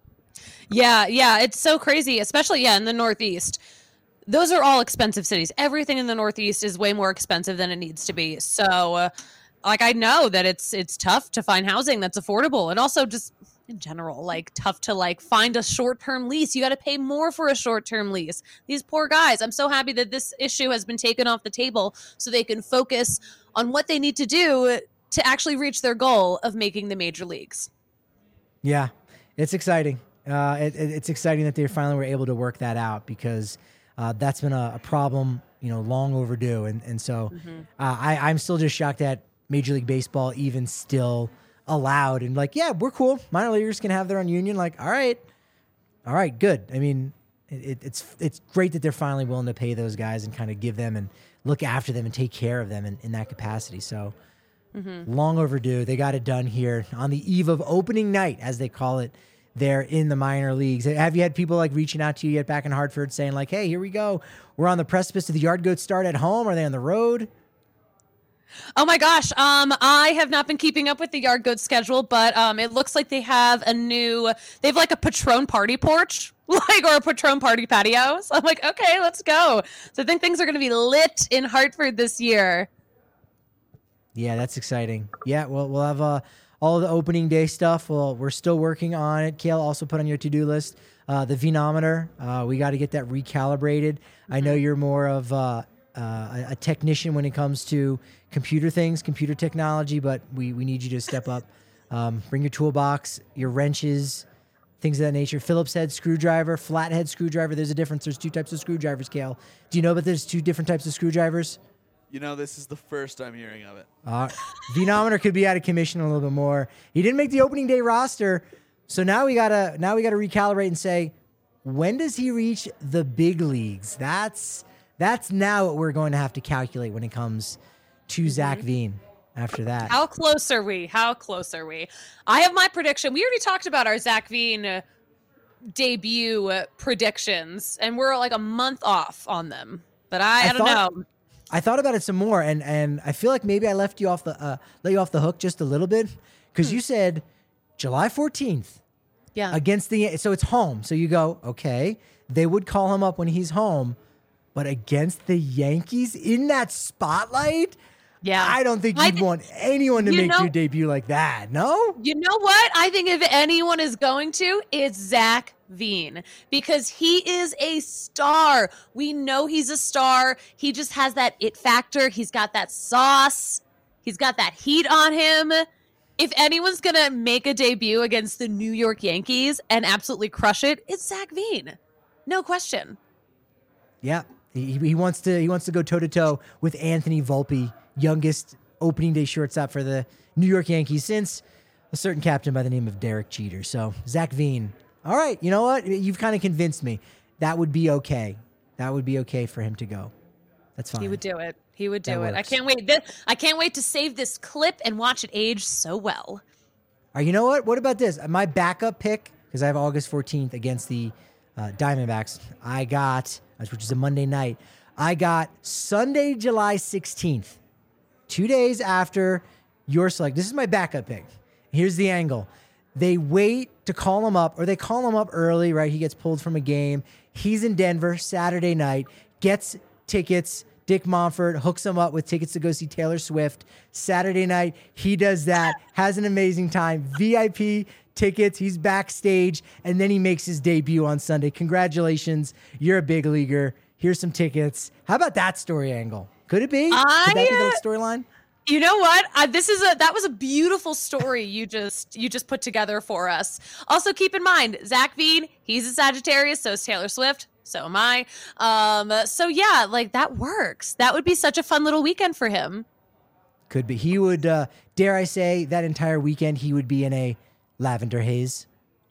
Yeah, yeah, it's so crazy, especially, yeah, in the Northeast. Those are all expensive cities. Everything in the Northeast is way more expensive than it needs to be. So, uh, like, I know that it's it's tough to find housing that's affordable, and also just in general, like, tough to, like, find a short-term lease. You got to pay more for a short-term lease. These poor guys. I'm so happy that this issue has been taken off the table so they can focus on what they need to do to actually reach their goal of making the major leagues. Yeah, it's exciting. Uh, it, it, it's exciting that they finally were able to work that out, because uh, that's been a, a problem, you know, long overdue. And and so mm-hmm. uh, I, I'm still just shocked that Major League Baseball even still allowed, and like, yeah, we're cool. Minor leaguers can have their own union. Like, all right, all right, good. I mean, it, it's it's great that they're finally willing to pay those guys and kind of give them and look after them and take care of them in, in that capacity. So mm-hmm. long overdue. They got it done here on the eve of opening night, as they call it, there in the minor leagues. Have you had people like reaching out to you yet back in Hartford saying like, hey, here we go. We're on the precipice of the Yard Goats start at home. Are they on the road? Oh my gosh. Um, I have not been keeping up with the Yard Goats schedule, but um, it looks like they have a new, they have like a Patron party porch, like, or a Patron party patio. So I'm like, okay, let's go. So I think things are going to be lit in Hartford this year. Yeah, that's exciting. Yeah, well, we'll have uh, all the opening day stuff. Well, we're still working on it. Kale, also put on your to-do list uh, the Venometer. Uh, we got to get that recalibrated. Mm-hmm. I know you're more of uh, uh, a, a technician when it comes to computer things, computer technology, but we, we need you to step up. Um, bring your toolbox, your wrenches, things of that nature. Phillips head screwdriver, flathead screwdriver. There's a difference. There's two types of screwdrivers, Kale. Do you know that there's two different types of screwdrivers? You know, this is the first I'm hearing of it. Uh, Venometer could be out of commission a little bit more. He didn't make the opening day roster, so now we gotta now we gotta recalibrate and say, when does he reach the big leagues? That's that's now what we're going to have to calculate when it comes to mm-hmm. Zach Veen. After that, how close are we? How close are we? I have my prediction. We already talked about our Zach Veen uh, debut uh, predictions, and we're like a month off on them. But I, I, I don't thought- know. I thought about it some more, and, and I feel like maybe I left you off the uh, let you off the hook just a little bit, because hmm. you said July fourteenth, yeah, against the so it's home. So you go, okay, they would call him up when he's home, but against the Yankees in that spotlight, Yeah. I don't think I you'd thi- want anyone to you make know- your debut like that. No? You know what? I think if anyone is going to, it's Zach Veen because he is a star. We know he's a star. He just has that it factor. He's got that sauce. He's got that heat on him. If anyone's going to make a debut against the New York Yankees and absolutely crush it, it's Zach Veen. No question. Yeah. He, he wants to he wants to go toe to toe with Anthony Volpe, youngest opening day shortstop for the New York Yankees since a certain captain by the name of Derek Jeter. So Zach Veen. All right, you know what? You've kind of convinced me. That would be okay. That would be okay for him to go. That's fine. He would do it. He would do That it. I works. can't wait. This, I can't wait to save this clip and watch it age so well. All right, you know what? What about this? My backup pick, because I have August fourteenth against the uh, Diamondbacks. I got, which is a Monday night, I got Sunday, July sixteenth, two days after your select. This is my backup pick. Here's the angle. They wait to call him up, or they call him up early, right? He gets pulled from a game. He's in Denver Saturday night, gets tickets. Dick Monfort hooks him up with tickets to go see Taylor Swift. Saturday night, he does that, has an amazing time. V I P tickets, he's backstage, and then he makes his debut on Sunday. Congratulations, you're a big leaguer. Here's some tickets. How about that story angle? Could it be? Could that be I, the storyline? You know what? Uh, this is a that was a beautiful story you just you just put together for us. Also, keep in mind, Zach Veen, he's a Sagittarius, so is Taylor Swift. So am I. Um, so yeah, like that works. That would be such a fun little weekend for him. Could be. He would, uh, dare I say, that entire weekend, he would be in a lavender haze.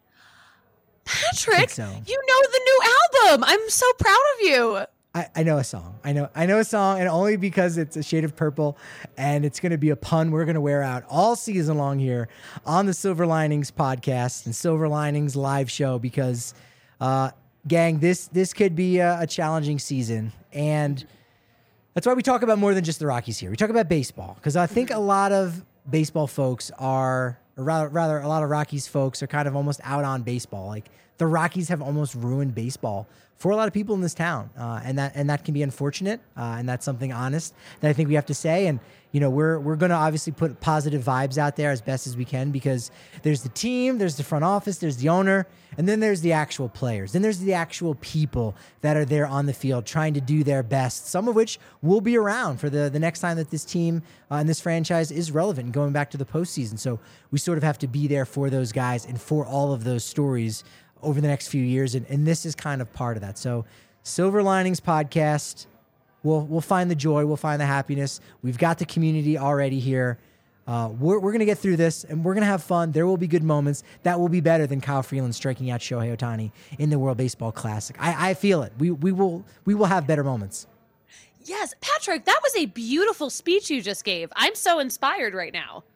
Patrick, so. you know the new album. I'm so proud of you. I, I know a song. I know I know a song, and only because it's a shade of purple, and it's going to be a pun we're going to wear out all season long here on the Silver Linings podcast and Silver Linings live show. Because, uh, gang, this this could be a, a challenging season, and that's why we talk about more than just the Rockies here. We talk about baseball because I think a lot of baseball folks are, or rather, rather, a lot of Rockies folks are kind of almost out on baseball. Like the Rockies have almost ruined baseball for a lot of people in this town, uh, and that and that can be unfortunate, uh, and that's something honest that I think we have to say. And you know, we're we're going to obviously put positive vibes out there as best as we can because there's the team, there's the front office, there's the owner, and then there's the actual players. Then there's the actual people that are there on the field trying to do their best. Some of which will be around for the the next time that this team uh, and this franchise is relevant and going back to the postseason. So we sort of have to be there for those guys and for all of those stories over the next few years, and, and this is kind of part of that. So Silver Linings podcast, we'll we'll find the joy, we'll find the happiness. We've got the community already here. Uh, we're we're going to get through this, and we're going to have fun. There will be good moments. That will be better than Kyle Freeland striking out Shohei Ohtani in the World Baseball Classic. I, I feel it. We we will we will have better moments. Yes, Patrick, that was a beautiful speech you just gave. I'm so inspired right now.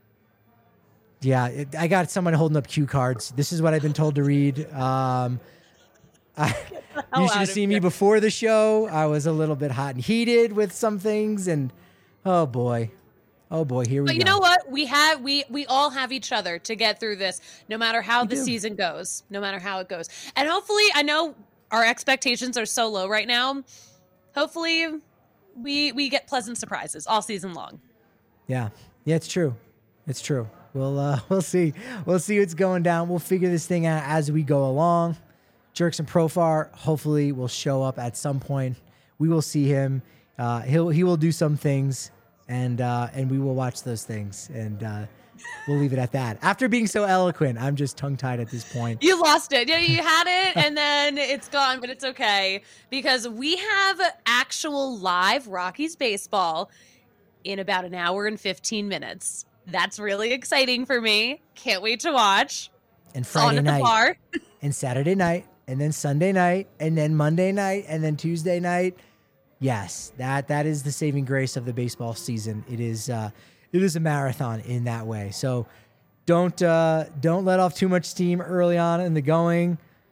Yeah, it, I got someone holding up cue cards. This is what I've been told to read. Um, I, you should have seen me before the show. I was a little bit hot and heated with some things, and oh boy, oh boy, here we But go. you know what? We have we we all have each other to get through this, no matter how We the do. season goes, no matter how it goes. And hopefully, I know our expectations are so low right now. Hopefully, we we get pleasant surprises all season long. Yeah, yeah, it's true. It's true. We'll uh, we'll see. We'll see what's going down. We'll figure this thing out as we go along. Jerks and Profar hopefully will show up at some point. We will see him. Uh, he'll he will do some things, and uh, and we will watch those things, and uh, we'll leave it at that. After being so eloquent, I'm just tongue tied at this point. You lost it. Yeah, you had it, and then it's gone, but it's okay because we have actual live Rockies baseball in about an hour and fifteen minutes. That's really exciting for me. Can't wait to watch. And It's on Friday at the night, bar. and Saturday night, and then Sunday night, and then Monday night, and then Tuesday night. Yes, that that is the saving grace of the baseball season. It is uh, it is a marathon in that way. So don't uh, don't let off too much steam early on in the going.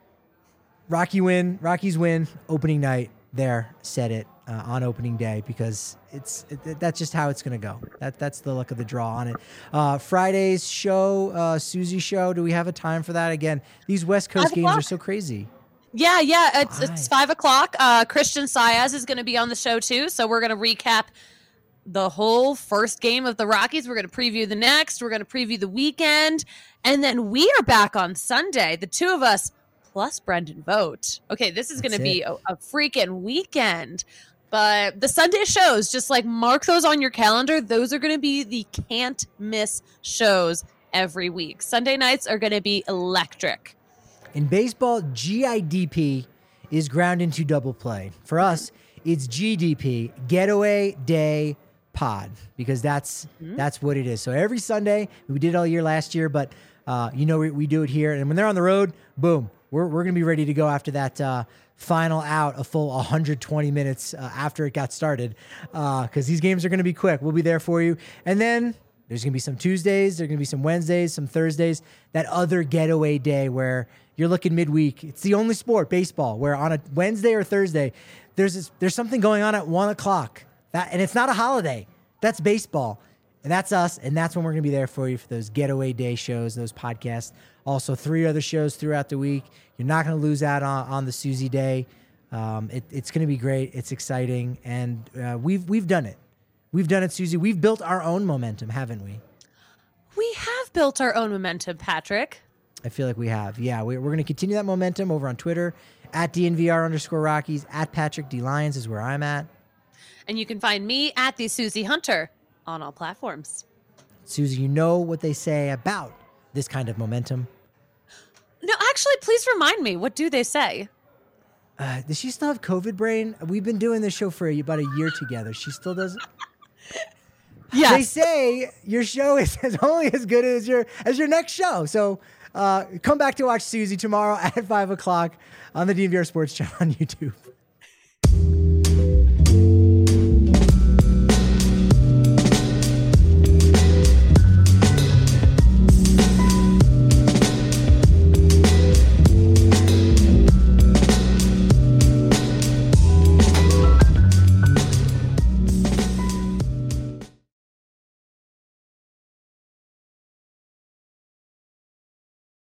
Rocky win, Rockies win opening night. There, said it uh, on opening day because it's it, that's just how it's gonna go. That that's the luck of the draw on it. Uh, Friday's show, uh, Susie show. Do we have a time for that? Again, these West Coast Five games are o'clock. so crazy. Yeah, yeah. It's Why? it's five o'clock. Uh, Christian Saez is going to be on the show too, so we're going to recap the whole first game of the Rockies. We're going to preview the next. We're going to preview the weekend, and then we are back on Sunday. The two of us plus Brendan Vogt. Okay, this is going to be a, a freaking weekend. But the Sunday shows, just like mark those on your calendar. Those are going to be the can't miss shows every week. Sunday nights are going to be electric. In baseball, G I D P is ground into double play. For us, it's G D P, Getaway Day Pod, because that's mm-hmm. that's what it is. So every Sunday, we did it all year last year, but uh, you know we, we do it here. And when they're on the road, boom, we're we're gonna be ready to go after that uh, final out, a full one hundred twenty minutes uh, after it got started, because uh, these games are gonna be quick. We'll be there for you, and then there's gonna be some Tuesdays, there's gonna be some Wednesdays, some Thursdays, that other getaway day where you're looking midweek. It's the only sport, baseball, where on a Wednesday or Thursday, there's this, there's something going on at one o'clock. That, and it's not a holiday. That's baseball. And that's us. And that's when we're going to be there for you for those getaway day shows, those podcasts. Also, three other shows throughout the week. You're not going to lose out on, on the Susie Day. Um, it, it's going to be great. It's exciting. And uh, we've we've done it. We've done it, Susie. We've built our own momentum, haven't we? We have built our own momentum, Patrick. I feel like we have. Yeah, we, we're going to continue that momentum over on Twitter. At D N V R underscore Rockies. At Patrick D. Lyons is where I'm at. And you can find me at the Susie Hunter on all platforms. Susie, you know what they say about this kind of momentum? No, actually, please remind me. What do they say? Uh, does she still have COVID brain? We've been doing this show for about a year together. She still doesn't? Yes. They say your show is as only as good as your as your next show. So uh, come back to watch Susie tomorrow at five o'clock on the D N V R Sports Channel on YouTube.